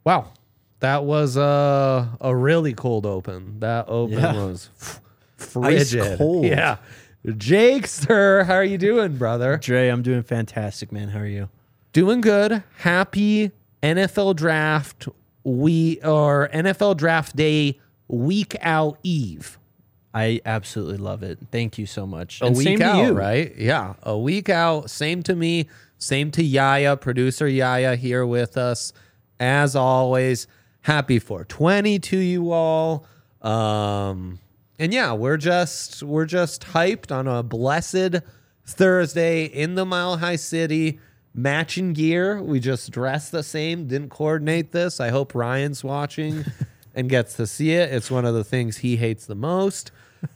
Wow. That was a really cold open. That open was frigid. Ice cold. Yeah. Jake, sir, how are you doing, brother? Dre, I'm doing fantastic, man. How are you? Doing good. Happy NFL draft NFL draft day week out eve. I absolutely love it. Thank you so much. A And week same out, to you. right? Yeah, a week out. Same to me. Same to Yaya, producer Yaya here with us. As always, happy 420 to you all. And yeah, we're just hyped on a blessed Thursday in the Mile High City. Matching gear. We just dressed the same. Didn't coordinate this. I hope Ryan's watching and gets to see it. It's one of the things he hates the most.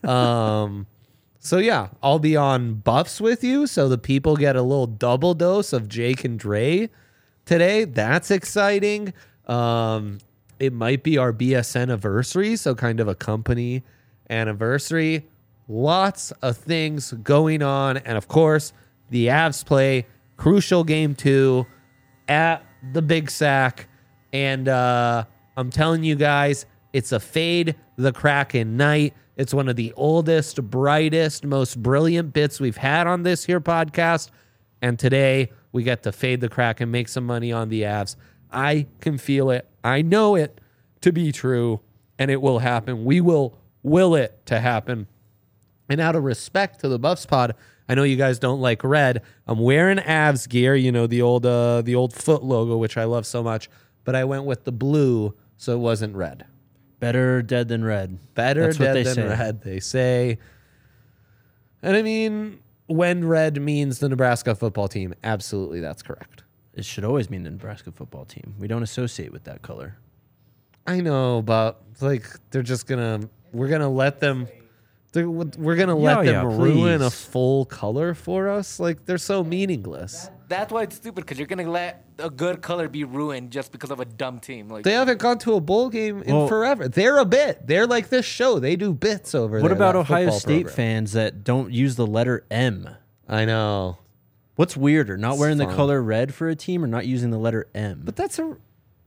So yeah, I'll be on Buffs with you, so the people get a little double dose of Jake and Dre today. That's exciting. It might be our BS anniversary, so kind of a company anniversary. Lots of things going on, and of course, the Avs play crucial game 2 at the Big Sack, and I'm telling you guys, it's a fade the Kraken night. It's one of the oldest, brightest, most brilliant bits we've had on this here podcast. And today we get to fade the Kraken, make some money on the Avs. I can feel it. I know it to be true, and it will happen. We will it to happen. And out of respect to the Buffs pod, I know you guys don't like red. I'm wearing Avs gear, you know, the old foot logo, which I love so much. But I went with the blue, so it wasn't red. Better dead than red. Better That's what dead they than say. red, they say. And I mean, when red means the Nebraska football team, absolutely that's correct. It should always mean the Nebraska football team. We don't associate with that color. I know, but like we're gonna let them ruin a please. full color for us. Like they're so meaningless. That's why it's stupid, because you're gonna let a good color be ruined just because of a dumb team. Like They haven't gone to a bowl game in forever. They're a bit. They're like this show. They do bits over there. What about that Ohio football State program. fans that don't use the letter M? I know. What's weirder, not It's wearing fun. the color red for a team or not using the letter M? But that's I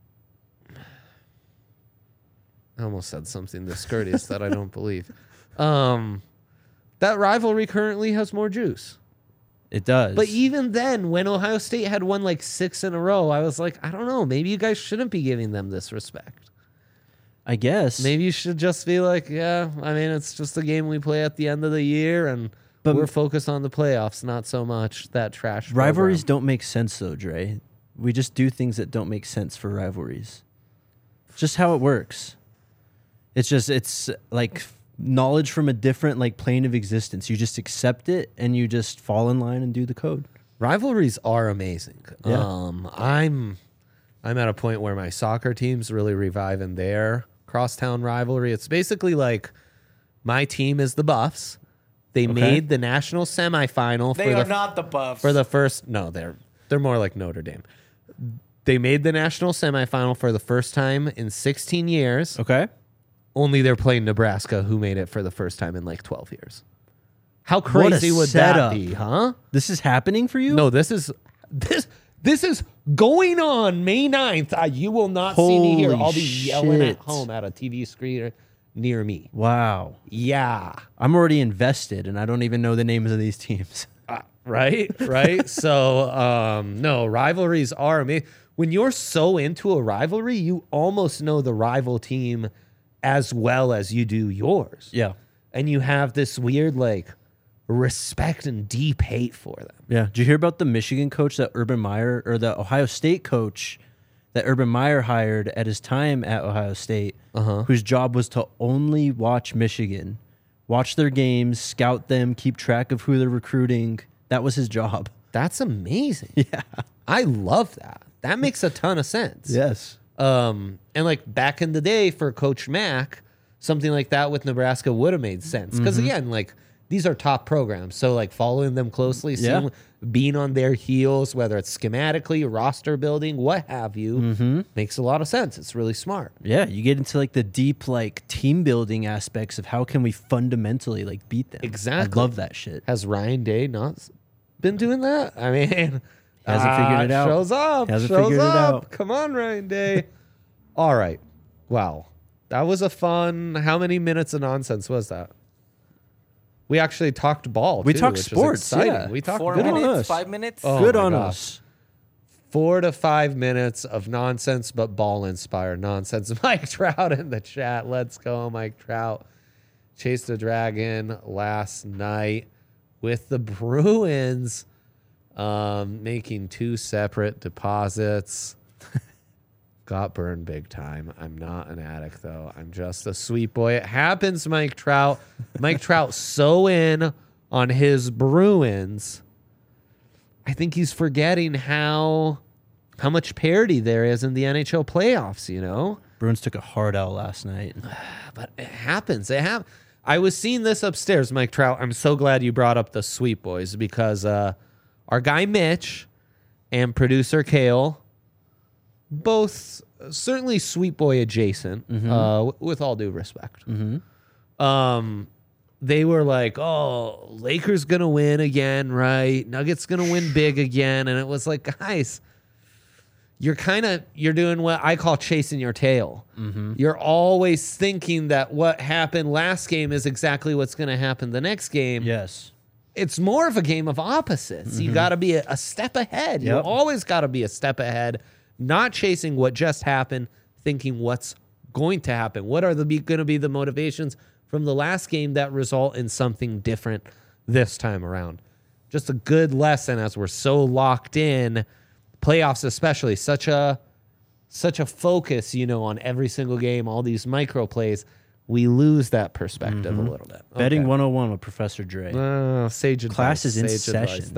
almost said something discourteous that I don't believe. That rivalry currently has more juice. It does. But even then, when Ohio State had won like 6 in a row, I was like, I don't know. Maybe you guys shouldn't be giving them this respect. I guess. Maybe you should just be like, yeah, I mean, it's just a game we play at the end of the year, and we're focused on the playoffs, not so much that trash Rivalries program. don't make sense, though, Dre. We just do things that don't make sense for rivalries. It's just how it works. It's like knowledge from a different like plane of existence. You just accept it and you just fall in line and do the code. Rivalries are amazing. Yeah. I'm at a point where my soccer team's really reviving their crosstown rivalry. It's basically like my team is the Buffs. They made the national semifinal. they are not the Buffs. for the first. No, they're more like Notre Dame. They made the national semifinal for the first time in 16 years. Okay. Only they're playing Nebraska, who made it for the first time in like 12 years. How What a crazy would setup. that be, huh? This is happening for you? No, this is going on May 9th. You will not see me here. Holy I'll be yelling at shit. home at a TV screen near me. Wow. Yeah. I'm already invested and I don't even know the names of these teams. Right. So, no, rivalries are amazing. When you're so into a rivalry, you almost know the rival team as well as you do yours. Yeah. And you have this weird, like, respect and deep hate for them. Yeah. Did you hear about the Michigan coach that Urban Meyer, or the Ohio State coach that Urban Meyer hired at his time at Ohio State, whose job was to only watch Michigan, watch their games, scout them, keep track of who they're recruiting? That was his job. That's amazing. Yeah. I love that. That makes a ton of sense. Yes. And like back in the day for Coach Mack, something like that with Nebraska would have made sense. Because again, like these are top programs. So like following them closely, seeing, being on their heels, whether it's schematically, roster building, what have you, makes a lot of sense. It's really smart. Yeah, you get into like the deep like team building aspects of how can we fundamentally like beat them. Exactly. I love that shit. Has Ryan Day not been doing that? I mean, Hasn't figured it out. Shows up. Hasn't shows figured it up. out. Come on, Ryan Day. All right. Wow. That was a fun. How many minutes of nonsense was that? We actually talked ball. We too, talked which is sports, exciting. yeah. We talked 4 Good on minutes, us. 5 minutes. Oh Good my on gosh. us. 4 to 5 minutes of nonsense, but ball inspired nonsense. Mike Trout in the chat. Let's go, Mike Trout. Chased the Dragon last night with the Bruins making 2 separate deposits. Got burned big time. I'm not an addict, though. I'm just a sweet boy. It happens, Mike Trout. Mike Trout so in on his Bruins. I think he's forgetting how much parity there is in the NHL playoffs, you know? Bruins took a hard L last night. But it happens. I was seeing this upstairs, Mike Trout. I'm so glad you brought up the Sweet Boys because our guy Mitch and producer Kale, both certainly Sweet Boy adjacent, with all due respect. They were like, oh, Lakers going to win again, right? Nuggets going to win big again. And it was like, guys, you're doing what I call chasing your tail. You're always thinking that what happened last game is exactly what's going to happen the next game. Yes. It's more of a game of opposites. You got to be a step ahead. You Yep. always got to be a step ahead, not chasing what just happened, thinking what's going to happen. What are going to be the motivations from the last game that result in something different this time around? Just a good lesson as we're so locked in, playoffs especially, such a focus, on every single game, all these micro plays. We lose that perspective a little bit. Betting Okay. 101 with Professor Dre. Sage advice. Class is in Sage advice. session.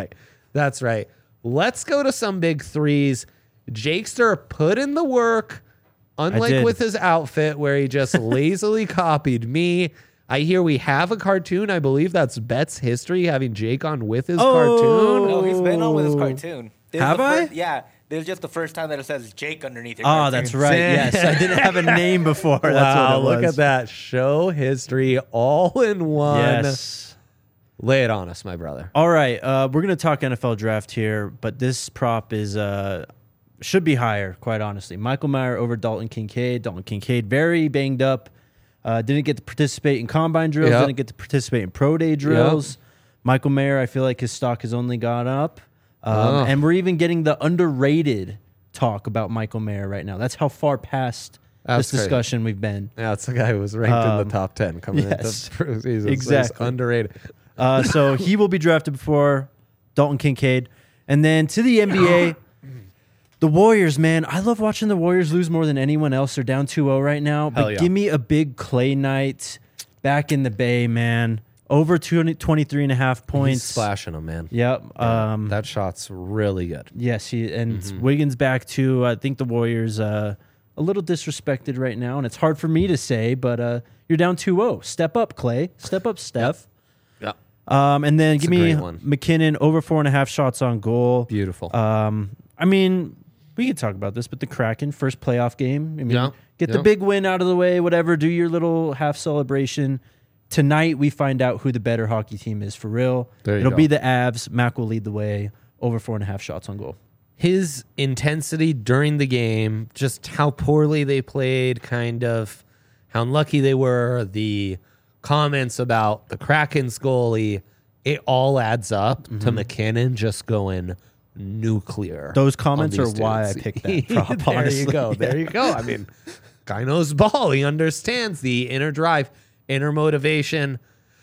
That's right. Let's go to some big threes. Jakester put in the work, unlike did. with his outfit where he just lazily copied me. I hear we have a cartoon. I believe that's Bet's history, having Jake on with his cartoon. No, he's been on with his cartoon. This is Have the I? Yeah. This is just the first time that it says Jake underneath your Oh, cartoon. that's right. Yes, I didn't have a name before. That's Wow, what it was. look at that. Show history all in one. Yes. Lay it on us, my brother. All right, we're gonna talk NFL draft here, but this prop is should be higher, quite honestly. Michael Mayer over Dalton Kincaid. Dalton Kincaid very banged up. Didn't get to participate in combine drills. Yep. Didn't get to participate in pro day drills. Michael Mayer, I feel like his stock has only gone up. And we're even getting the underrated talk about Michael Mayer right now. That's how far past That's this crazy. discussion we've been. Yeah, it's the guy who was ranked in the top 10 coming yes. into preseason. So he's Exactly. underrated. So he will be drafted before Dalton Kincaid. And then to the NBA, the Warriors, man. I love watching the Warriors lose more than anyone else. They're down 2-0 right now. But Hell yeah. give me a big Clay night back in the Bay, man. Over 23 and a half points. He's splashing them, man. Yep. That shot's really good. Yes, Wiggins back too. I think the Warriors a little disrespected right now, and it's hard for me to say, but you're down 2-0. Step up, Clay. Step up, Steph. Yeah. And then give a me great one. McKinnon over 4.5 shots on goal. Beautiful. I mean, we could talk about this, but the Kraken first playoff game. I mean, Yeah, get the yeah. big win out of the way. Whatever. Do your little half celebration. Tonight we find out who the better hockey team is for real. There you It'll go. be the Avs. Mac will lead the way. Over 4.5 shots on goal. His intensity during the game, just how poorly they played, kind of how unlucky they were, the comments about the Kraken's goalie, it all adds up to McKinnon just going nuclear. Those comments on are these why I dudes. picked that prop, There honestly. you go. There you go. I mean, guy knows ball. He understands the inner drive, inner motivation.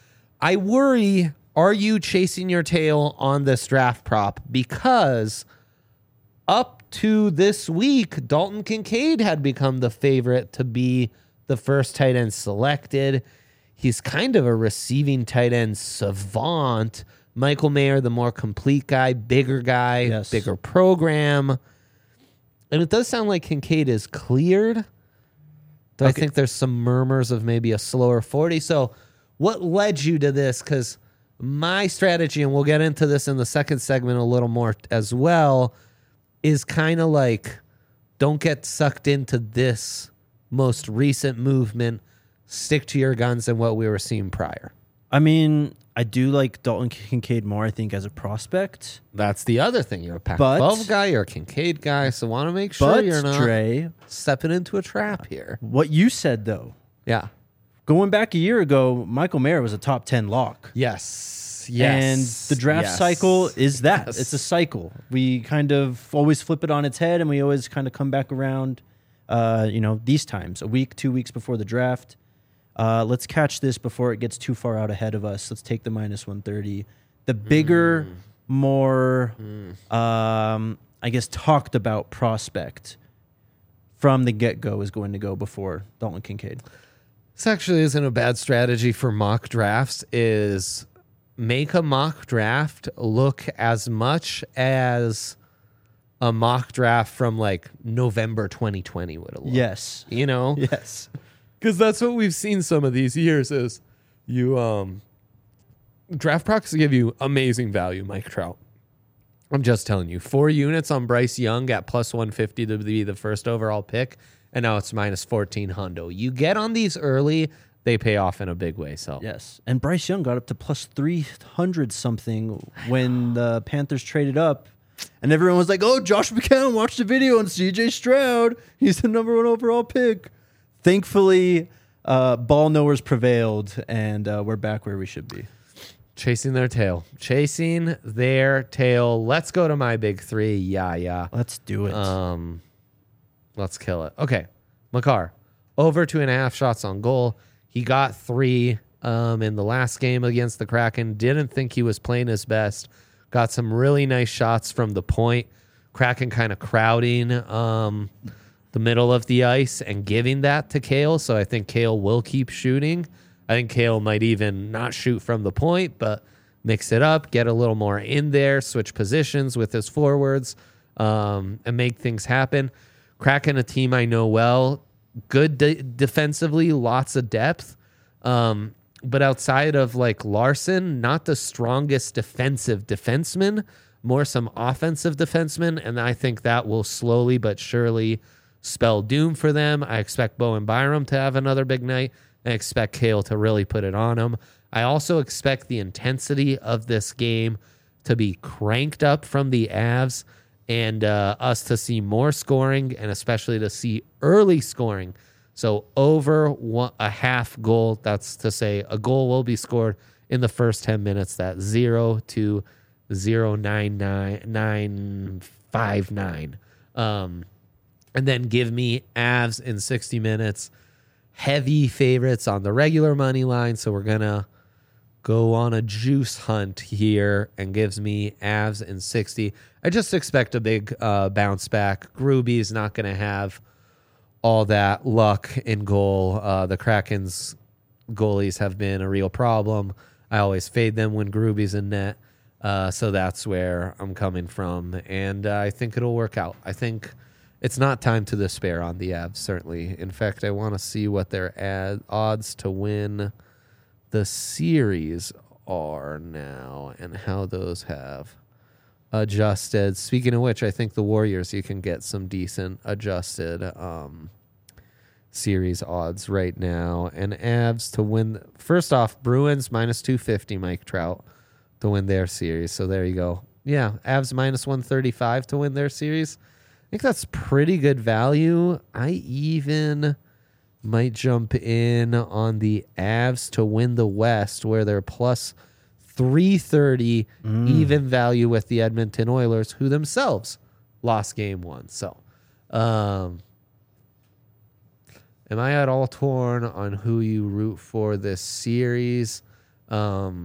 I worry, are you chasing your tail on this draft prop? Because up to this week, Dalton Kincaid had become the favorite to be the first tight end selected. He's kind of a receiving tight end savant. Michael Mayer, the more complete guy, bigger guy, Yes. bigger program. And it does sound like Kincaid is cleared. Though I think there's some murmurs of maybe a slower 40. So what led you to this? Because my strategy, and we'll get into this in the second segment a little more as well, is kind of like, don't get sucked into this most recent movement. Stick to your guns and what we were seeing prior. I mean, I do like Dalton Kincaid more, I think, as a prospect. That's the other thing. You're a Pac-12 guy. You're a Kincaid guy. So want to make sure But, you're not Dre, stepping into a trap here. what you said, though, Yeah. going back a year ago, Michael Mayer was a top 10 lock. Yes. And the draft cycle is that. Yes. It's a cycle. We kind of always flip it on its head, and we always kind of come back around, these times, a week, 2 weeks before the draft. Let's catch this before it gets too far out ahead of us. Let's take the minus 130. The bigger, more, I guess, talked about prospect from the get-go is going to go before Dalton Kincaid. This actually isn't a bad strategy for mock drafts, is make a mock draft look as much as a mock draft from like November 2020 would have looked. Yes. You know? Yes. Because that's what we've seen some of these years is you draft procs give you amazing value, Mike Trout. I'm just telling you, 4 units on Bryce Young at plus 150 to be the first overall pick, and now it's minus 14 hundo. You get on these early, they pay off in a big way. So Yes. And Bryce Young got up to plus 300 something when the Panthers traded up. And everyone was like, oh, Josh McCown, watch the video on CJ Stroud. He's the number 1 overall pick. Thankfully, ball knowers prevailed, and we're back where we should be. chasing their tail. Let's go to my big 3. Yeah. Let's do it. Let's kill it. Okay. Makar, over 2.5 shots on goal. He got 3 in the last game against the Kraken. Didn't think he was playing his best. Got some really nice shots from the point. Kraken kind of crowding the middle of the ice and giving that to Kale. So I think Kale will keep shooting. I think Kale might even not shoot from the point, but mix it up, get a little more in there, switch positions with his forwards, and make things happen. Kraken, a team I know well, good defensively, lots of depth. But outside of like Larson, not the strongest defensive defenseman, more some offensive defensemen. And I think that will slowly but surely spell doom for them. I expect Bowen Byram to have another big night. I expect Kale to really put it on him. I also expect the intensity of this game to be cranked up from the Avs and us to see more scoring and especially to see early scoring. So over a half goal, that's to say a goal will be scored in the first 10 minutes. That's 0 to 0.959. And then give me Avs in 60 minutes. Heavy favorites on the regular money line. So we're going to go on a juice hunt here and gives me Avs in 60. I just expect a big bounce back. Gruby's not going to have all that luck in goal. The Kraken's goalies have been a real problem. I always fade them when Gruby's in net. So that's where I'm coming from. And I think it'll work out. I think it's not time to despair on the Avs, certainly. In fact, I want to see what their odds to win the series are now and how those have adjusted. Speaking of which, I think the Warriors, you can get some decent adjusted series odds right now. And Avs to win. First off, Bruins minus 250, Mike Trout, to win their series. So there you go. Yeah, Avs minus 135 to win their series. I think that's pretty good value. I even might jump in on the Avs to win the West, where they're plus 330 even value with the Edmonton Oilers, who themselves lost game 1. So, am I at all torn on who you root for this series? Yeah,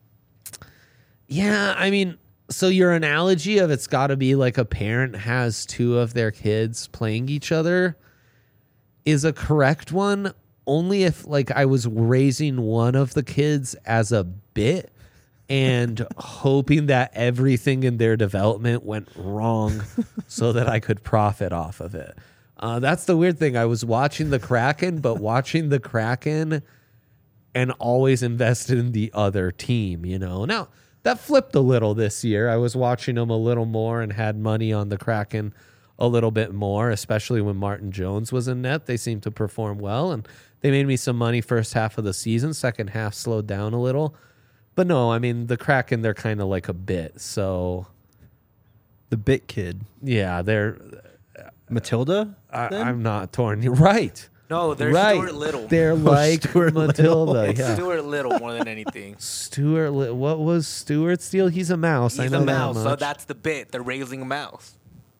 I mean, so your analogy of it's got to be like a parent has 2 of their kids playing each other is a correct one, only if like I was raising one of the kids as a bit and hoping that everything in their development went wrong so that I could profit off of it. That's the weird thing. I was watching the Kraken, but watching the Kraken and always invested in the other team, you know. Now, that flipped a little this year. I was watching them a little more and had money on the Kraken a little bit more, especially when Martin Jones was in net. They seemed to perform well, and they made me some money first half of the season. Second half slowed down a little. But no, I mean, the Kraken, they're kind of like a bit. So, The Bit Kid. yeah, they're. Matilda? I'm not torn. You're right. No, they're Right. Stuart Little. They're like Stuart Matilda. It's Yeah. Stuart Little more than anything. What was Stuart's deal? He's a mouse. I He's know a mouse, that so much. that's the bit. They're raising a mouse.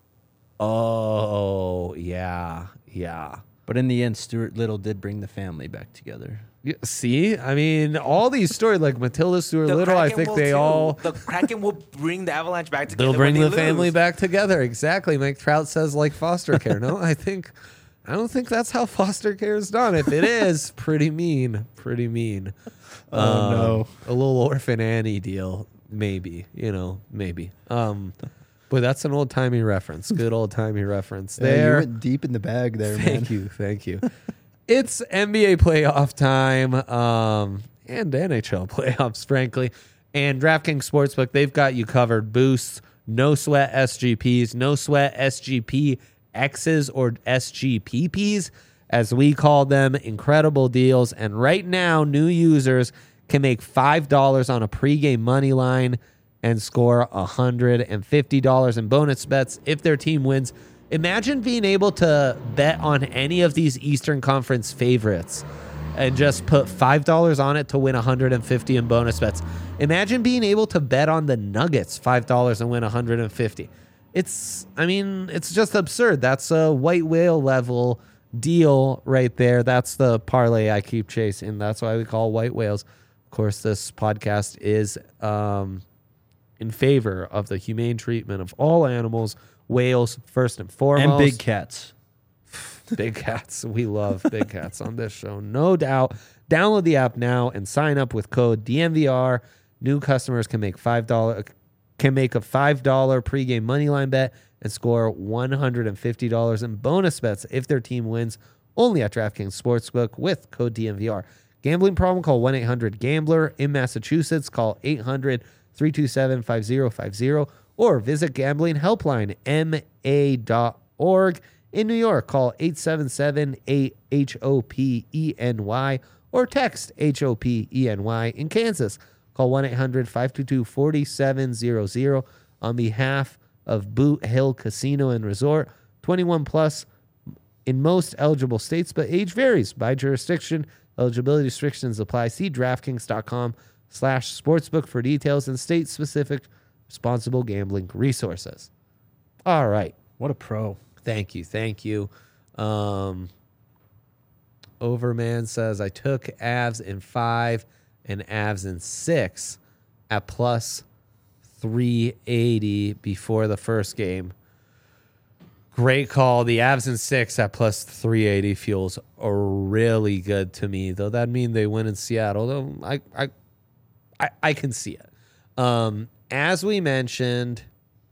Oh, yeah. Yeah. But in the end, Stuart Little did bring the family back together. Yeah, see, I mean, all these stories like Matilda, Stuart The Little, I Kraken think will they too. all The Kraken will bring the Avalanche back together. they'll bring when the they family lose. back together. Exactly. Mike Trout says like foster care. No, I don't think that's how foster care is done. If it is, pretty mean. Pretty mean. No. A little Orphan Annie deal, maybe. Maybe. But that's an old timey reference. Good old timey reference. Yeah, you There. went deep in the bag there, man. Thank you. It's NBA playoff time, and NHL playoffs, frankly. And DraftKings Sportsbook, they've got you covered. Boosts, no sweat SGPs, no sweat SGP X's or SGPPs, as we call them. Incredible deals. And right now, new users can make $5 on a pregame money line and score $150 in bonus bets if their team wins. Imagine being able to bet on any of these Eastern Conference favorites and just put $5 on it to win $150 in bonus bets. Imagine being able to bet on the Nuggets $5 and win $150. It's just absurd. That's a white whale level deal right there. That's the parlay I keep chasing. That's why we call white whales. Of course, this podcast is in favor of the humane treatment of all animals. Whales first and foremost. And big cats. Big cats. We love big cats on this show, no doubt. Download the app now and sign up with code DNVR. New customers can make a $5 pregame moneyline bet and score $150 in bonus bets if their team wins. Only at DraftKings Sportsbook with code DNVR. Gambling problem? Call 1-800-GAMBLER. In Massachusetts, call 800-327-5050 or visit gamblinghelplinema.org. In New York, call 877-8-HOPENY or text HOPENY. In Kansas, call 1-800-522-4700 on behalf of Boot Hill Casino and Resort. 21 plus in most eligible states, but age varies by jurisdiction. Eligibility restrictions apply. See DraftKings.com/sportsbook for details and state-specific responsible gambling resources. All right. What a pro. Thank you. Overman says, I took Avs in 5 and Avs in 6 at plus 380 before the first game. Great call. The Avs in 6 at plus 380 feels really good to me, though that mean they win in Seattle. Though I can see it. As we mentioned,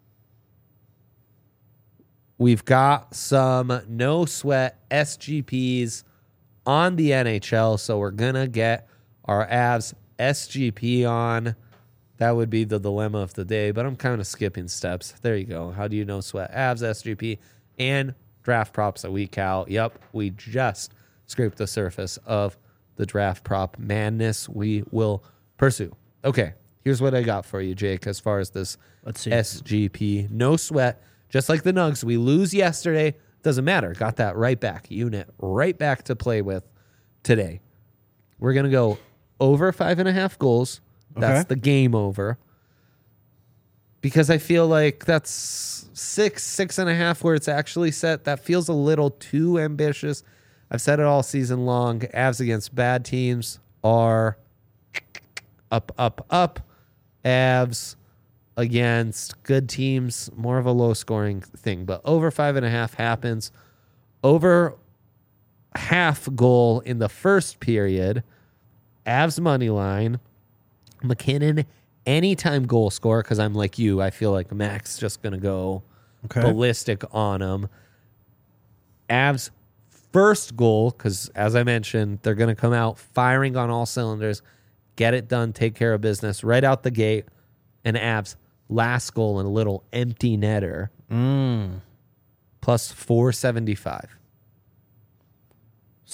we've got some no sweat SGPs on the NHL, so we're gonna get our Avs SGP on. That would be the dilemma of the day, but I'm kind of skipping steps. There you go. How do you no sweat Avs SGP and draft props a week out? Yep, we just scraped the surface of the draft prop madness we will pursue. Okay, here's what I got for you, Jake, as far as this Let's see. SGP. No sweat. Just like the Nugs, we lose yesterday. Doesn't matter. Got that right back. Unit right back to play with today. We're going to go over 5.5 goals. That's Okay. the game over. Because I feel like that's 6.5 where it's actually set. That feels a little too ambitious. I've said it all season long. Avs against bad teams are up. Avs against good teams, more of a low scoring thing. But over 5.5 happens. Over half goal in the first period. Avs money line. McKinnon anytime goal scorer, because I'm like you. I feel like Mac's just going to go ballistic on him. Avs first goal, because as I mentioned, they're going to come out firing on all cylinders, get it done, take care of business right out the gate. And Avs last goal and a little empty netter. Plus 475.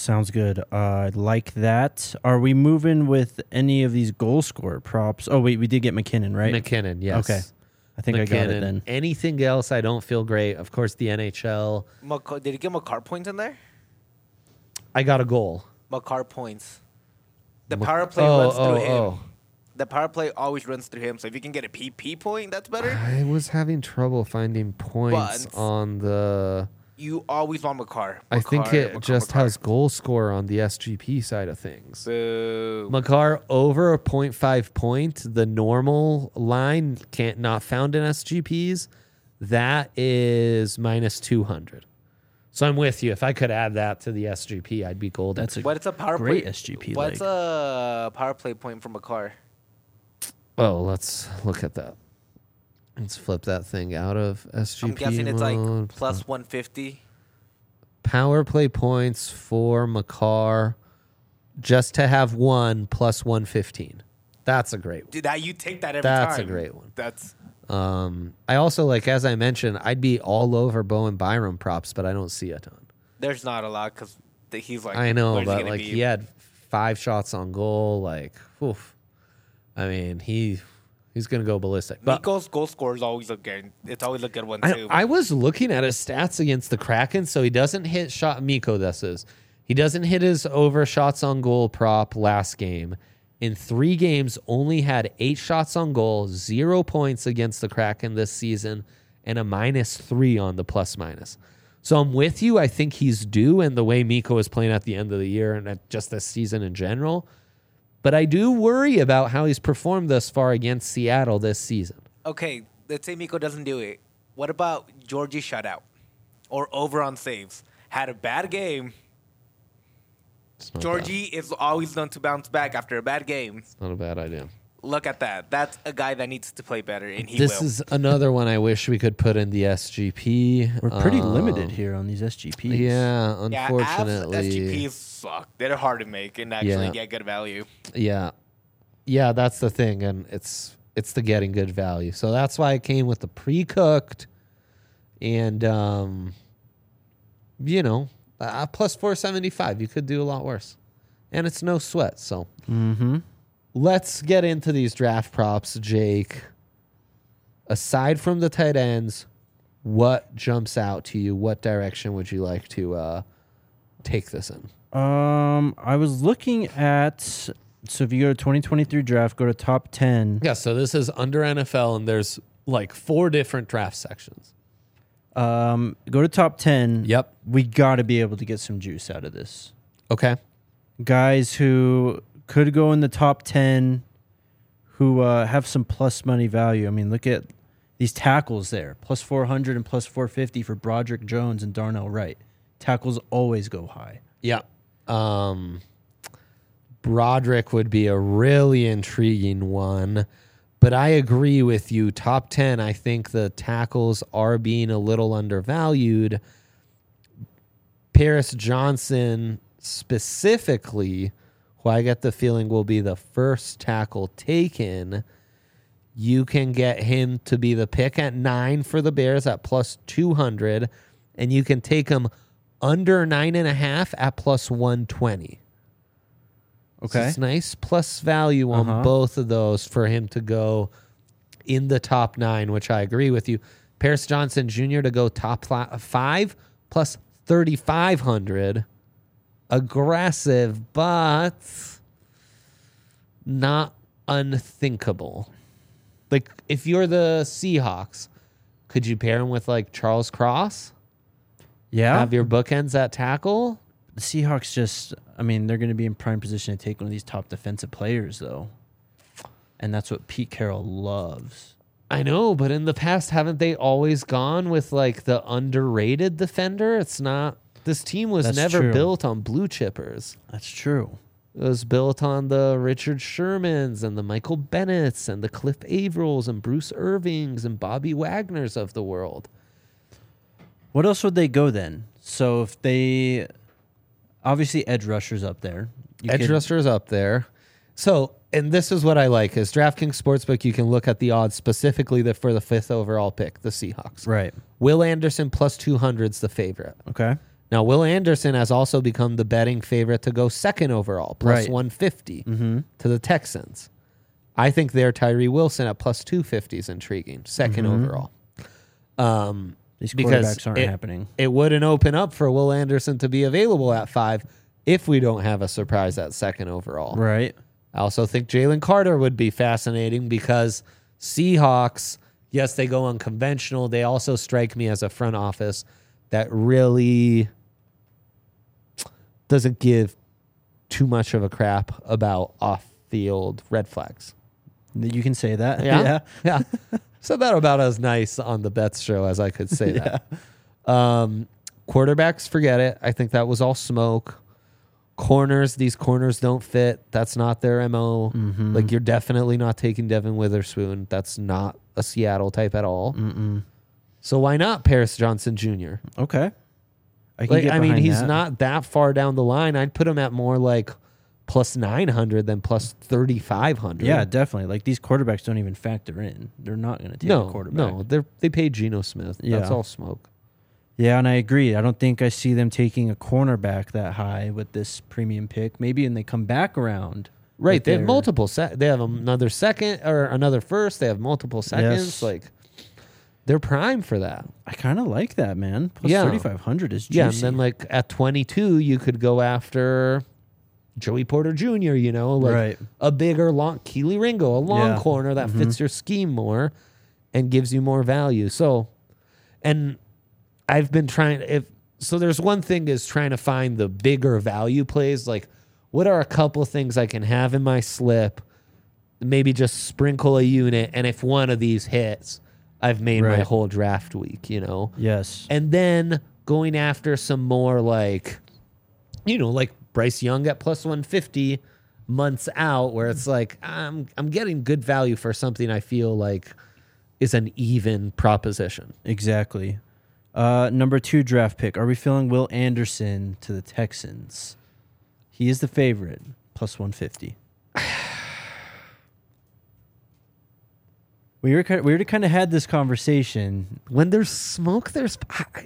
Sounds good. I like that. Are we moving with any of these goal scorer props? Oh, wait, we did get McKinnon, right? McKinnon, yes. Okay. I think I got it then. Anything else, I don't feel great. Of course, the NHL. Did he get McCarr points in there? I got a goal. McCarr points. The power play runs through him. Oh. The power play always runs through him. So if you can get a PP point, that's better. I was having trouble finding points But on the... You always want McCarr. I think it McCarr, just McCarr. has goal scorer on the SGP side of things. Boo. McCarr over a 0.5 point. The normal line can't not found in SGPs. That is minus 200. So I'm with you. If I could add that to the SGP, I'd be golden. That's a What's a power great play? SGP What's leg. a power play point from McCarr? Oh, let's look at that. Let's flip that thing out of SGP I'm guessing it's like mode. plus 150. Power play points for McCarr just to have one plus 115. That's a great one. Dude, you take that every time. That's a great one. That's I also, like, as I mentioned, I'd be all over Bowen Byram props, but I don't see a ton. there's not a lot because he's like. I know, where's he but gonna like be? he had 5 shots on goal. Like, oof. I mean, he's gonna go ballistic. But Mikko's goal score is always a good. It's always a good one I, too. I was looking at his stats against the Kraken, so he doesn't hit shot. Mikko, this is. He doesn't hit his over shots on goal prop last game. In 3 games, only had 8 shots on goal, 0 points against the Kraken this season, and a -3 on the plus minus. So I'm with you. I think he's due, and the way Mikko is playing at the end of the year and just this season in general. But I do worry about how he's performed thus far against Seattle this season. Okay, let's say Mikko doesn't do it. What about Georgie shutout or over on saves? Had a bad game. It's not Georgie is always known to bounce back after a bad game. not a bad idea. Look at that. That's a guy that needs to play better, and he This will. is another one I wish we could put in the SGP. We're pretty limited here on these SGPs. Yeah, Yeah, unfortunately. SGPs suck. They're hard to make and actually Yeah. get good value. Yeah. Yeah, that's the thing. And it's the getting good value. So that's why I came with the pre-cooked and, plus 475. You could do a lot worse. And it's no sweat. So let's get into these draft props, Jake. Aside from the tight ends, what jumps out to you? What direction would you like to take this in? I was looking at, so if you go to 2023 draft, go to top 10. Yeah, so this is under NFL, and there's like 4 different draft sections. Go to top 10. Yep. We got to be able to get some juice out of this. Okay. Guys who could go in the top 10 who have some plus money value. I mean, look at these tackles there. Plus 400 and plus 450 for Broderick Jones and Darnell Wright. Tackles always go high. Yeah. Broderick would be a really intriguing one, but I agree with you. Top 10, I think the tackles are being a little undervalued. Paris Johnson specifically, who I get the feeling will be the first tackle taken, you can get him to be the pick at 9 for the Bears at plus 200, and you can take him under 9.5 at plus 120. Okay. So it's nice plus value on both of those for him to go in the top 9, which I agree with you. Paris Johnson Jr. to go top 5 plus 3,500. Aggressive, but not unthinkable. Like, if you're the Seahawks, could you pair him with, like, Charles Cross? Yeah. Have your bookends at tackle? The Seahawks just, I mean, they're going to be in prime position to take one of these top defensive players, though. And that's what Pete Carroll loves. I know, but in the past, haven't they always gone with, like, the underrated defender? It's not. This team was That's never true. built on blue chippers. That's true. It was built on the Richard Shermans and the Michael Bennett's and the Cliff Avrils and Bruce Irvings and Bobby Wagner's of the world. What else would they go then? So if they, obviously edge rushers up there. Edge rusher's up there. So, and this is what I like, is DraftKings Sportsbook, you can look at the odds specifically for the 5th overall pick, the Seahawks. Right. Will Anderson plus 200's the favorite. Okay. Now, Will Anderson has also become the betting favorite to go second overall, plus Right. 150 to the Texans. I think their Tyree Wilson at plus 250 is intriguing, second overall. These Because quarterbacks aren't happening. It wouldn't open up for Will Anderson to be available at 5 if we don't have a surprise at second overall. Right. I also think Jalen Carter would be fascinating because Seahawks, yes, they go unconventional. They also strike me as a front office that really doesn't give too much of a crap about off-field red flags. You can say that. Yeah. Yeah. So that about as nice on the Bets show as I could say that. Quarterbacks, forget it. I think that was all smoke. Corners, these corners don't fit. That's not their MO. Like, you're definitely not taking Devin Witherspoon. That's not a Seattle type at all. So why not Paris Johnson Jr.? Okay. I mean, he's not that far down the line. I'd put him at more like plus 900 than plus 3,500. Yeah, definitely. Like, these quarterbacks don't even factor in. They're not going to take a quarterback. No, they paid Geno Smith. Yeah. That's all smoke. Yeah, and I agree. I don't think I see them taking a cornerback that high with this premium pick. Maybe when they come back around. Right. They have their- multiple. They have another second or another first. They have multiple seconds. Yes. Like, they're prime for that. I kind of like that, man. Plus Yeah. 3,500 is juicy. Yeah. And then, like, at 22, you could go after Joey Porter Jr., like Right. a bigger, long Keely Ringo, a long Yeah. corner that fits your scheme more and gives you more value. So, and I've been trying, so there's one thing is trying to find the bigger value plays. Like, what are a couple things I can have in my slip? Maybe just sprinkle a unit. And if one of these hits, I've made my Right. whole draft week, Yes. And then going after some more like Bryce Young at plus 150 months out, where it's like, I'm getting good value for something I feel like is an even proposition. Exactly. Number 2 draft pick. Are we feeling Will Anderson to the Texans? He is the favorite, plus 150. We already kind of had this conversation. When there's smoke, there's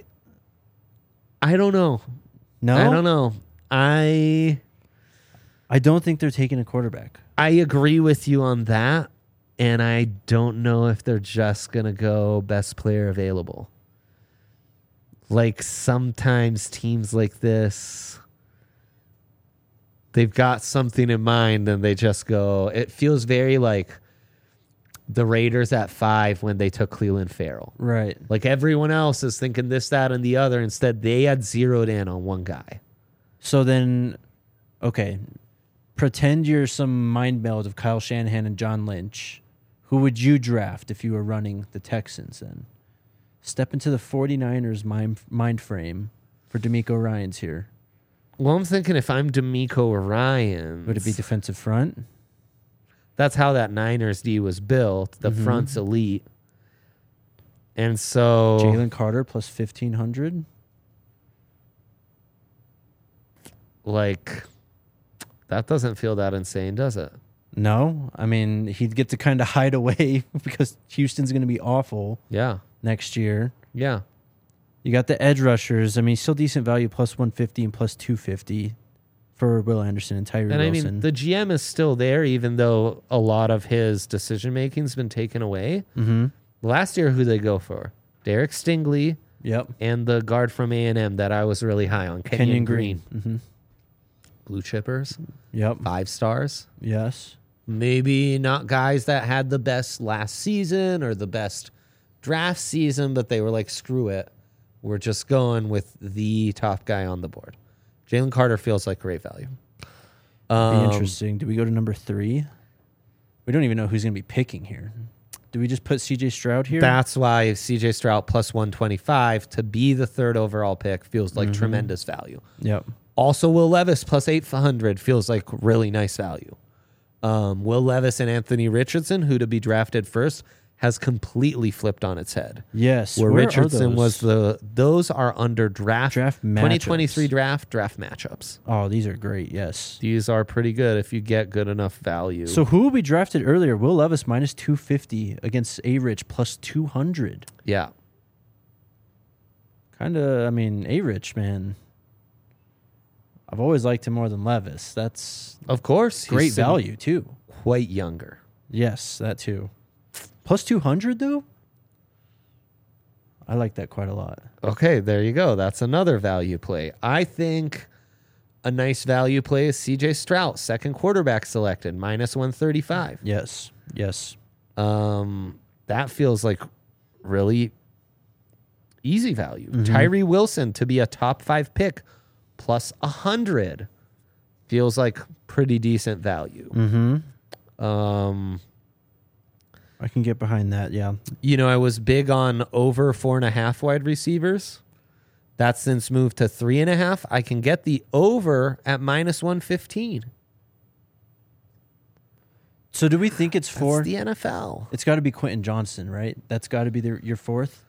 I don't know. No, I don't know. I don't think they're taking a quarterback. agree with you on that, and I don't know if they're just gonna go best player available. Like, sometimes teams like this, they've got something in mind and they just go. It feels very like the Raiders at 5 when they took Cleveland Farrell. Right. Like, everyone else is thinking this, that, and the other. Instead, they had zeroed in on one guy. So then, okay, pretend you're some mind meld of Kyle Shanahan and John Lynch. Who would you draft if you were running the Texans then? Step into the 49ers mind frame for D'Amico Ryans here. Well, I'm thinking if I'm D'Amico Ryans, Would it be defensive front? that's how that Niners D was built. The front's elite. And so Jalen Carter plus 1,500? like, that doesn't feel that insane, does it? No. I mean, he'd get to kind of hide away because Houston's going to be awful Yeah. next year. Yeah. You got the edge rushers. I mean, still decent value, plus 150 and plus 250 for Will Anderson and Tyree And I Wilson. mean, the GM is still there, even though a lot of his decision making's been taken away. Mm-hmm. Last year, who they go for? Derek Stingley Yep. and the guard from A&M that I was really high on, Kenyon Green. Mm-hmm. Blue chippers, Yep. 5 stars. Yes. Maybe not guys that had the best last season or the best draft season, but they were like, screw it. We're just going with the top guy on the board. Jalen Carter feels like great value. Be interesting. Do we go to number 3? We don't even know who's going to be picking here. Do we just put C.J. Stroud here? That's why CJ Stroud plus 125 to be the 3rd overall pick feels like tremendous value. Yep. Also, Will Levis plus 800 feels like really nice value. Will Levis and Anthony Richardson, who to be drafted first, has completely flipped on its head. Yes. Where are Richardson was those? those are under draft Draft 2023 matchups. draft matchups. Oh, these are great. Yes. These are pretty good if you get good enough value. So who will be drafted earlier? Will Levis minus 250 against A-Rich plus 200. yeah. Kind of, I mean, A-Rich, man. I've always liked him more than Levis. That's Of course. great he's value too. quite younger. Yes, that too. Plus 200 though? I like that quite a lot. Okay, there you go. That's another value play. I think a nice value play is CJ Stroud, second quarterback selected, minus 135. Yes. Yes. That feels like really easy value. Tyree Wilson to be a top 5 pick plus 100 feels like pretty decent value. I can get behind that, yeah. You know, I was big on over 4.5 wide receivers. That's since moved to 3.5. I can get the over at minus 115. So do we think it's That's 4? the NFL. It's got to be Quentin Johnston, right? That's got to be your 4th?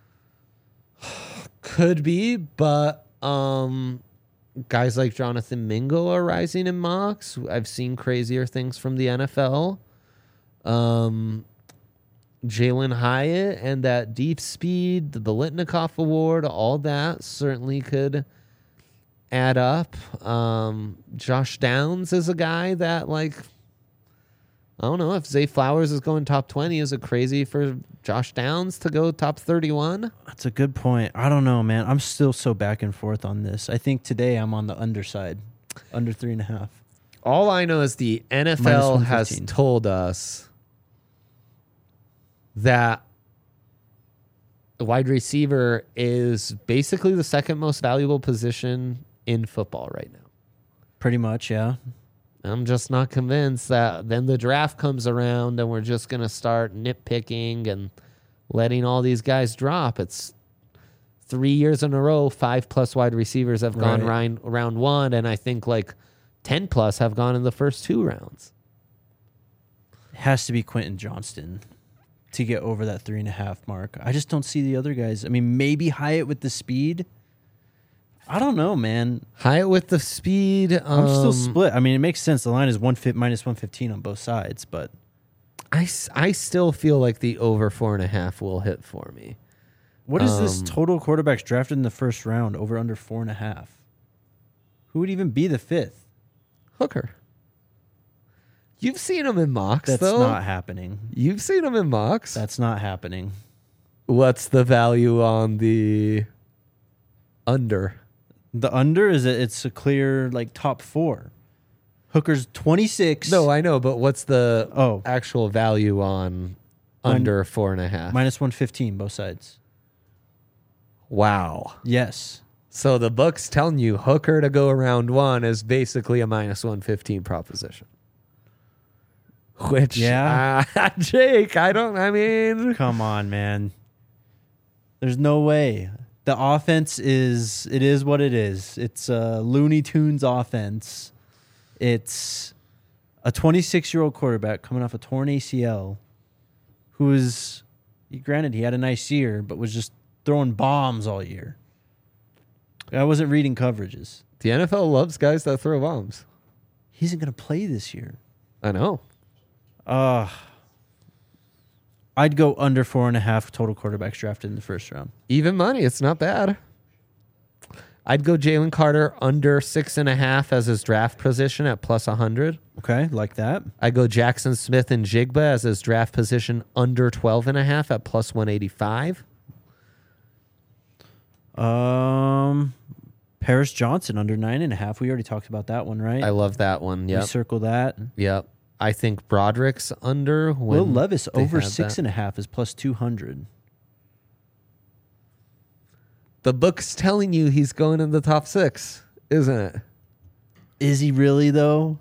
Could be, but guys like Jonathan Mingo are rising in mocks. I've seen crazier things from the NFL. Jalen Hyatt and that deep speed, the Biletnikoff Award, all that certainly could add up. Josh Downs is a guy that, like, I don't know if Zay Flowers is going top 20. Is it crazy for Josh Downs to go top 31? That's a good point. I don't know, man. I'm still so back and forth on this. I think today I'm on the underside, under 3.5. All I know is the Minus NFL has 115. told us that the wide receiver is basically the second most valuable position in football right now. Pretty much, yeah. I'm just not convinced that then the draft comes around and we're just going to start nitpicking and letting all these guys drop. It's 3 years in a row, 5+ wide receivers have gone Right. round one, and I think like 10+ have gone in the first 2 rounds. It has to be Quentin Johnston to get over that 3.5 mark. I just don't see the other guys. I mean, maybe Hyatt with the speed. I don't know, man. Hyatt with the speed. I'm still split. I mean, it makes sense. The line is minus 115 on both sides, but I still feel like the over 4.5 will hit for me. what is this total quarterbacks drafted in the first round over under 4.5? Who would even be the 5th? Hooker. You've seen him in mocks, That's though. not happening. You've seen him in mocks. That's not happening. What's the value on the under? The under it's a clear like top 4. Hooker's 26. No, I know, but what's the Oh. actual value on under 4.5? minus 115 both sides. Wow. Yes. So the book's telling you Hooker to go around 1 is basically a minus 115 proposition. Which, Yeah. Jake, I mean, Come on, man. There's no way. The offense is what it is. It's a Looney Tunes offense. It's a 26-year-old quarterback coming off a torn ACL who is, granted, he had a nice year, but was just throwing bombs all year. I wasn't reading coverages. the NFL loves guys that throw bombs. He isn't going to play this year. I know. I'd go under 4.5 total quarterbacks drafted in the first round. Even money, it's not bad. I'd go Jalen Carter under 6.5 as his draft position at plus 100. Okay, like that. I'd go Jackson Smith and Jigba as his draft position under 12.5 at plus 185. Paris Johnson under 9.5. We already talked about that one, right? I love that one. We Yep. circle that. Yep. I think Broderick's under. Will when Levis they over had that. 6.5 is plus 200. The book's telling you he's going in the top 6, isn't it? Is he really though?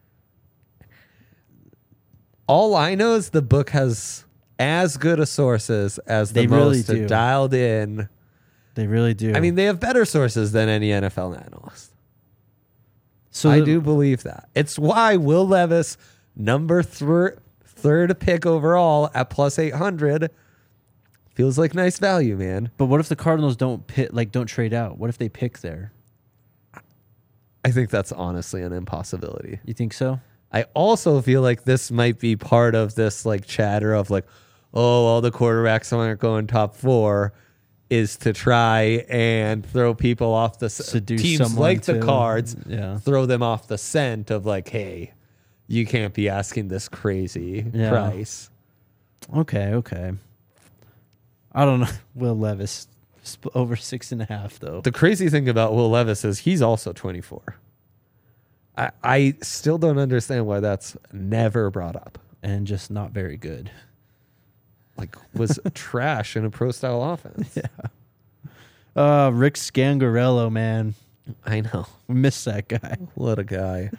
All I know is the book has as good a sources as the They really most do. dialed in. They really do. I mean, they have better sources than any NFL analyst. so I do believe that. It's why Will Levis, number third pick overall at plus 800, feels like nice value, man. But what if the Cardinals don't trade out? What if they pick there? I think that's honestly an impossibility. You think so? I also feel like this might be part of this like chatter of like, oh, all the quarterbacks aren't going top 4. is to try and throw people off the Seduce teams someone like the to- Cards, yeah. throw them off the scent of like, hey, you can't be asking this crazy Yeah. price. Okay. I don't know. Will Levis over 6.5 though. The crazy thing about Will Levis is he's also 24. I still don't understand why that's never brought up. And just not very good. Like, was trash in a pro style offense. Rick Scangarello, man. I know. We miss that guy. What a guy.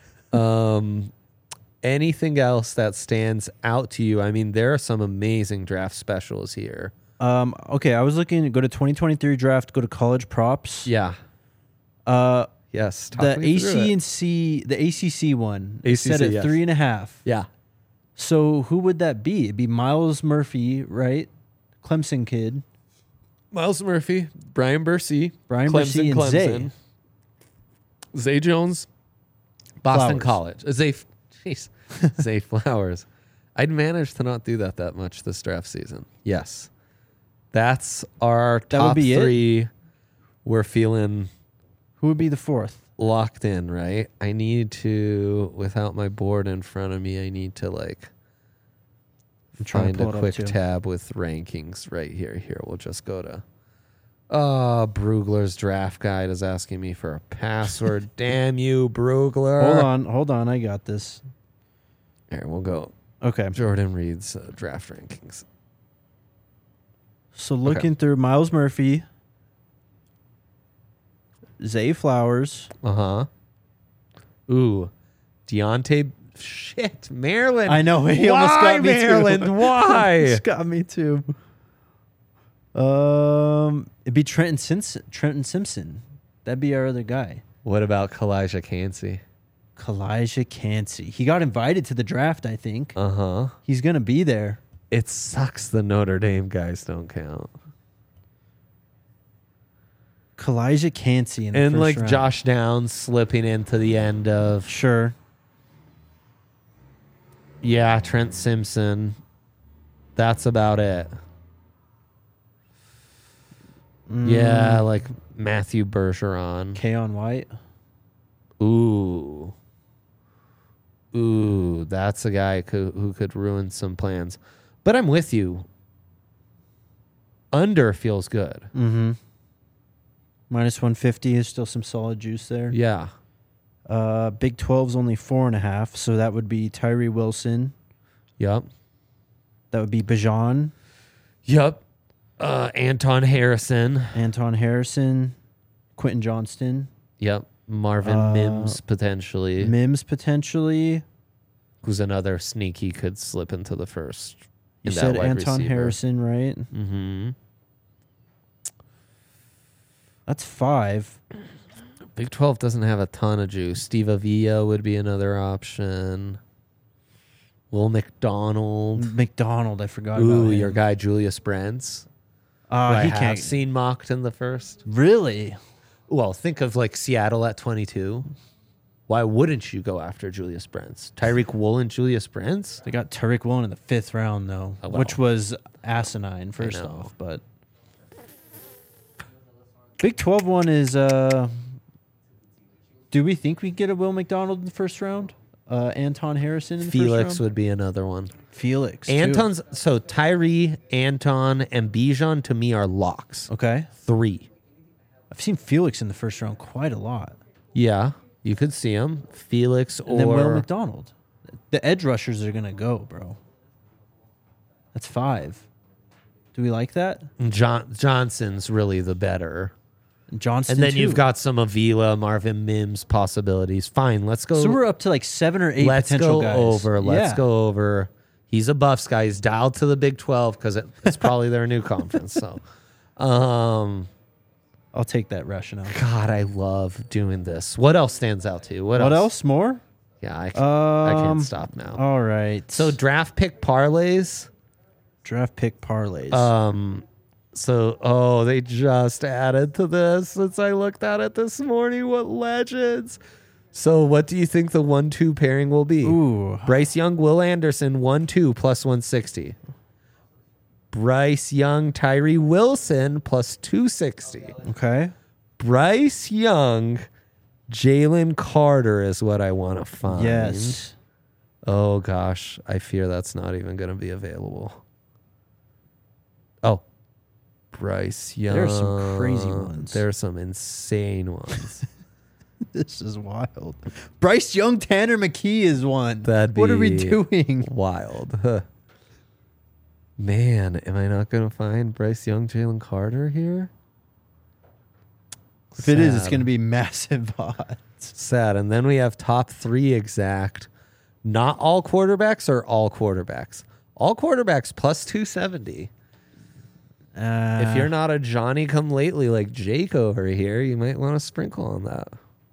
Anything else that stands out to you? I mean, there are some amazing draft specials here. Okay, I was looking to go to 2023 draft, go to college props. Yeah. Yes. The talk me through it. the ACC one, ACC, set at yes. 3.5. Yeah. So who would that be? It'd be Miles Murphy, right? Clemson kid. Miles Murphy, Brian Bursey, Brian Bursey and Zay. Zay Jones, Boston Flowers. College. Zay Flowers. I'd managed to not do that much this draft season. Yes. That's our That would top be it? 3. We're feeling Who would be the 4th? locked in, right? I need to, without my board in front of me, I need to like I'm trying find to pull a it up quick too. tab with rankings right here. Here, we'll just go to Brugler's draft guide is asking me for a password. Damn you, Brugler. Hold on. I got this. Here, we'll go. Okay. Jordan Reed's draft rankings. So looking through Miles Murphy, Zay Flowers. Uh-huh. Ooh. Deontay. Shit, Maryland. I know, he Why, almost got me too. Maryland? Why? It's got me too. It'd be Trenton Simpson. That'd be our other guy. What about Kalijah Cansey? Kalijah Cansey. He got invited to the draft, I think. Uh-huh. He's gonna be there. It sucks the Notre Dame guys don't count. Kalijah Cansey in the And first like round. Josh Downs slipping into the end of Sure. Trent Simpson. That's about it. Yeah, like Matthew Bergeron. Keon White. Ooh, that's a guy who could ruin some plans. But I'm with you. Under feels good. Mm-hmm. Minus 150 is still some solid juice there. Yeah. Big 12's only 4.5, so that would be Tyree Wilson. Yep. That would be Bajan, Yep. Anton Harrison. Anton Harrison, Quentin Johnston, Yep. Marvin Mims potentially. Mims potentially. Who's another sneaky could slip into the first. You in that said wide Anton receiver. Harrison, right? Mm-hmm. That's 5. Big 12 doesn't have a ton of juice. Steve Avila would be another option. Will McDonald. McDonald, I forgot about Ooh, him. your guy Julius Brents. who I He have can't. seen mocked in the first. Really? Well, think of like Seattle at 22. Why wouldn't you go after Julius Brents? Tyreek Woolen, Julius Brents? They got Tariq Woolen in the 5th round, though, Oh, well. which was asinine, first know. off. But Big 12 one is, do we think we get a Will McDonald in the first round? Anton Harrison in the Felix first round? would be another one. Felix, too. Anton's so Tyree, Anton, and Bijan to me are locks. Okay. 3. I've seen Felix in the first round quite a lot. Yeah, you could see him. Felix And then Will or McDonald. The edge rushers are going to go, bro. That's 5. Do we like that? Johnson's really the better. Johnston, And then too. you've got some Avila, Marvin Mims possibilities. Fine, let's go. So we're up to like 7 or 8 let's potential go guys. over. Let's Yeah. go over. He's a Buffs guy. He's dialed to the Big 12 because it's probably their new conference. So, I'll take that rationale. God, I love doing this. What else stands out to you? What Else? More? Yeah, I can't stop now. All right. So draft pick parlays. draft pick parlays. So, they just added to this since I looked at it this morning. What legends. So, what do you think the 1-2 pairing will be? Ooh. Bryce Young, Will Anderson, 1-2 plus 160. Bryce Young, Tyree Wilson plus 260. Okay. Bryce Young, Jalen Carter is what I want to find. Yes. Oh gosh, I fear that's not even going to be available. Oh, Bryce Young. There are some crazy ones. There are some insane ones. This is wild. Bryce Young, Tanner McKee is one. That'd What are we be doing? Wild. Huh. Man, am I not going to find Bryce Young, Jalen Carter here? If it is, it's Sad. going to be massive odds. Sad. And then we have top 3 exact. Not all quarterbacks or all quarterbacks. All quarterbacks plus 270. If you're not a Johnny come lately like Jake over here, you might want to sprinkle on that.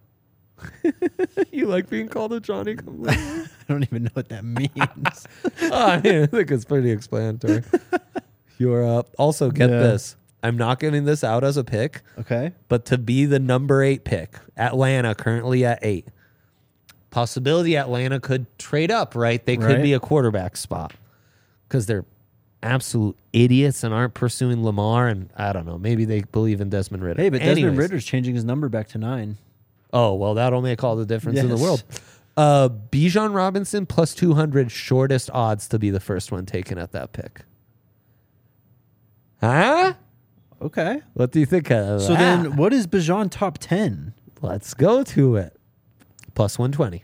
You like being called a Johnny come lately? I don't even know what that means. I mean, I think it's pretty explanatory. You're up. Also, get Yeah. this. I'm not giving this out as a pick, Okay. but to be the number 8 pick, Atlanta currently at 8. Possibility Atlanta could trade up, right? They could Right. be a quarterback spot because they're absolute idiots and aren't pursuing Lamar. And I don't know. Maybe they believe in Desmond Ridder. Hey, but Desmond Anyways. Ritter's changing his number back to 9. Oh, well, that'll make all the difference in the Yes. world. Bijan Robinson plus 200, shortest odds to be the first one taken at that pick. Huh? Okay. What do you think of So that? then what is Bijan top 10? Let's go to it. Plus 120.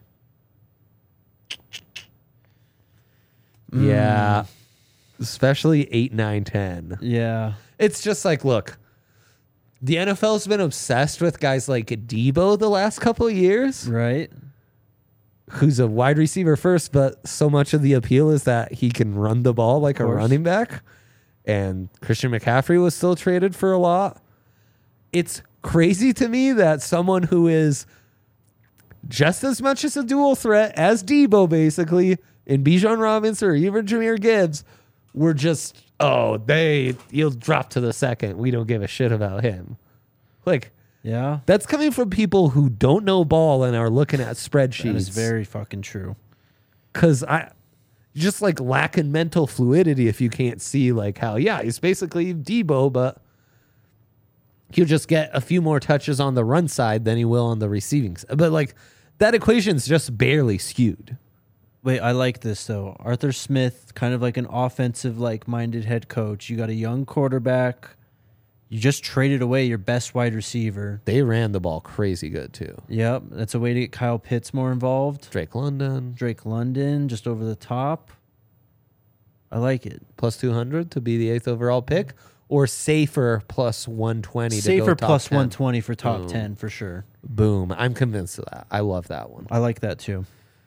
Yeah. Especially 8, 9, 10. Yeah. It's just like, look, the NFL's been obsessed with guys like Debo the last couple of years, Right. who's a wide receiver first, but so much of the appeal is that he can run the ball like a course. running back. And Christian McCaffrey was still traded for a lot. It's crazy to me that someone who is just as much as a dual threat as Debo, basically, in Bijan Robinson or even Jahmyr Gibbs, were just, he'll drop to the second. We don't give a shit about him. Like, Yeah. that's coming from people who don't know ball and are looking at That spreadsheets. is very fucking true. Because just like lacking mental fluidity if you can't see like how, he's basically Debo, but he'll just get a few more touches on the run side than he will on the receiving side. But like that equation's just barely skewed. Wait, I like this though. Arthur Smith, kind of like an offensive like minded head coach. You got a young quarterback. You just traded away your best wide receiver. They ran the ball crazy good too. Yep, that's a way to get Kyle Pitts more involved. Drake London Drake London just over the top. I like it. plus 200 to be the 8th overall pick, or safer plus 120 to Safer go top plus 10. 120 for top Boom. 10 for sure. Boom. I'm convinced of that. I love that one. I like that too.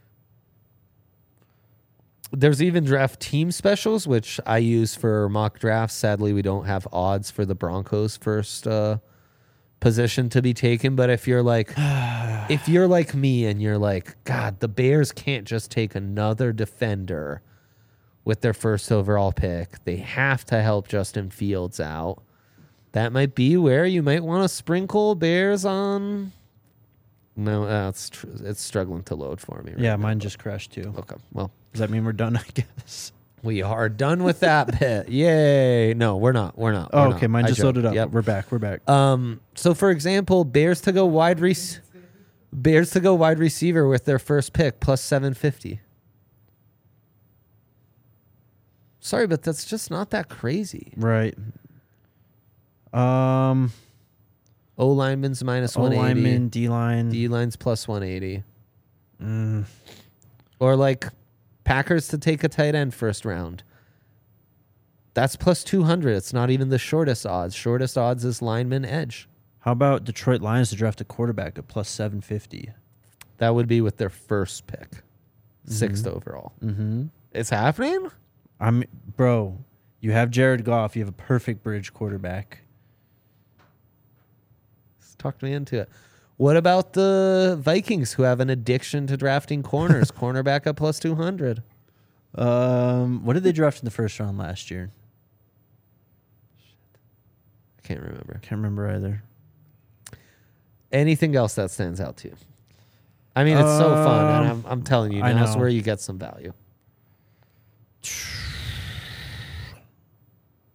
There's even draft team specials, which I use for mock drafts. Sadly, we don't have odds for the Broncos' first position to be taken. But if you're like, me and you're like, God, the Bears can't just take another defender with their first overall pick. They have to help Justin Fields out. That might be where you might want to sprinkle Bears on. No, it's struggling to load for me. Right Yeah, now. mine just crashed too. Okay, well. Does that mean we're done, I guess? We are done with that bit. Yay. No, we're not. We're not. Oh, We're okay. not. Mine I just joked. loaded up. Yep. We're back. So for example, Bears to go wide receiver with their first pick plus 750. Sorry, but that's just not that crazy. Right. O lineman's minus O 180. lineman, D line. D line's plus 180. Or like Packers to take a tight end first round. That's plus 200. It's not even the shortest odds. Shortest odds is lineman edge. How about Detroit Lions to draft a quarterback at plus 750? That would be with their first pick, 6th overall. Mm-hmm. It's happening? Bro, you have Jared Goff. You have a perfect bridge quarterback. Talk me into it. What about the Vikings who have an addiction to drafting corners? Cornerback at plus 200. What did they draft in the first round last year? I can't remember. Can't remember either. Anything else that stands out to you? I mean, it's so fun, and I'm telling you, I now's know. where you get some value.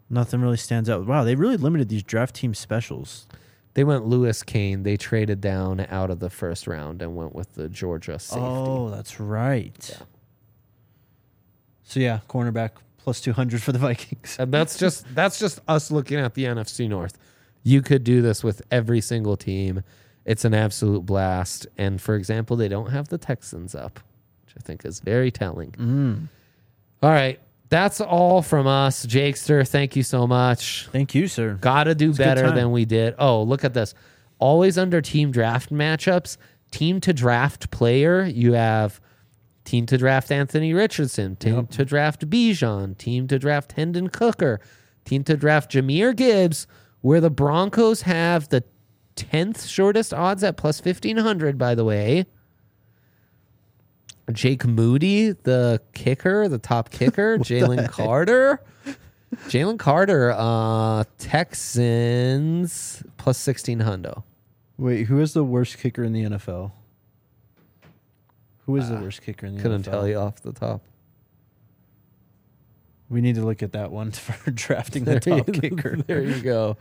Nothing really stands out. Wow, they really limited these draft team specials. They went Lewis Kane. They traded down out of the first round and went with the Georgia safety. Oh, that's right. Yeah. So yeah, cornerback plus 200 for the Vikings. And that's just us looking at the NFC North. You could do this with every single team. It's an absolute blast. And for example, they don't have the Texans up, which I think is very telling. All right. That's all from us. Jakester, thank you so much. Thank you, sir. Gotta do a good better time. than we did. Oh, look at this. Always under team draft matchups. Team to draft player. You have team to draft Anthony Richardson. Team to draft Bijan. Team to draft Hendon Cooker. Team to draft Jahmyr Gibbs, where the Broncos have the 10th shortest odds at plus 1,500, by the way. Jake Moody, the kicker, the top kicker. Jalen Carter. Jalen Carter, Texans plus 1,600. Wait, who is the worst kicker in the NFL? Who is the worst kicker in the Couldn't NFL? tell you off the top. We need to look at that one for drafting the top kicker. There you go.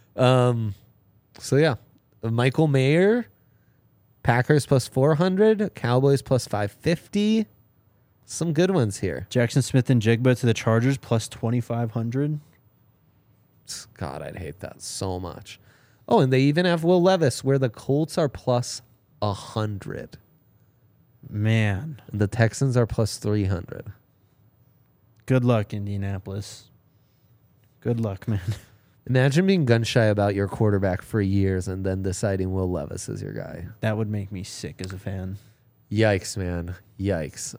So yeah, Michael Mayer, Packers plus 400, Cowboys plus 550. Some good ones here. Jackson Smith and Jigba to the Chargers plus 2,500. God, I'd hate that so much. Oh, and they even have Will Levis, where the Colts are plus 100. Man, And the Texans are plus 300. good luck, Indianapolis. Good luck, man. Imagine being gun shy about your quarterback for years and then deciding Will Levis is your guy. That would make me sick as a fan. Yikes, man. Yikes.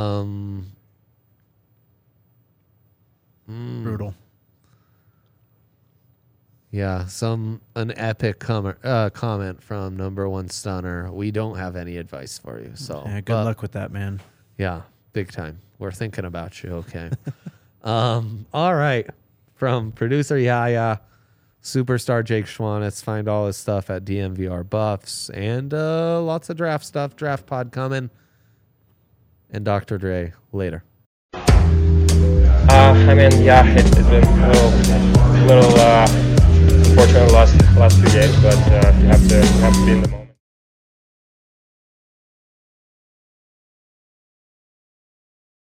Brutal. Yeah, an epic comment from number one stunner. We don't have any advice for you. So Yeah, good luck with that, man. Yeah, big time. We're thinking about you. Okay. All right. From producer Yaya, superstar Jake Schwanitz. Find all his stuff at DMVR Buffs and lots of draft stuff. Draft pod coming. And Dr. Dre later. I mean, yeah, it's been a little unfortunate last few games, but you have to be in the moment.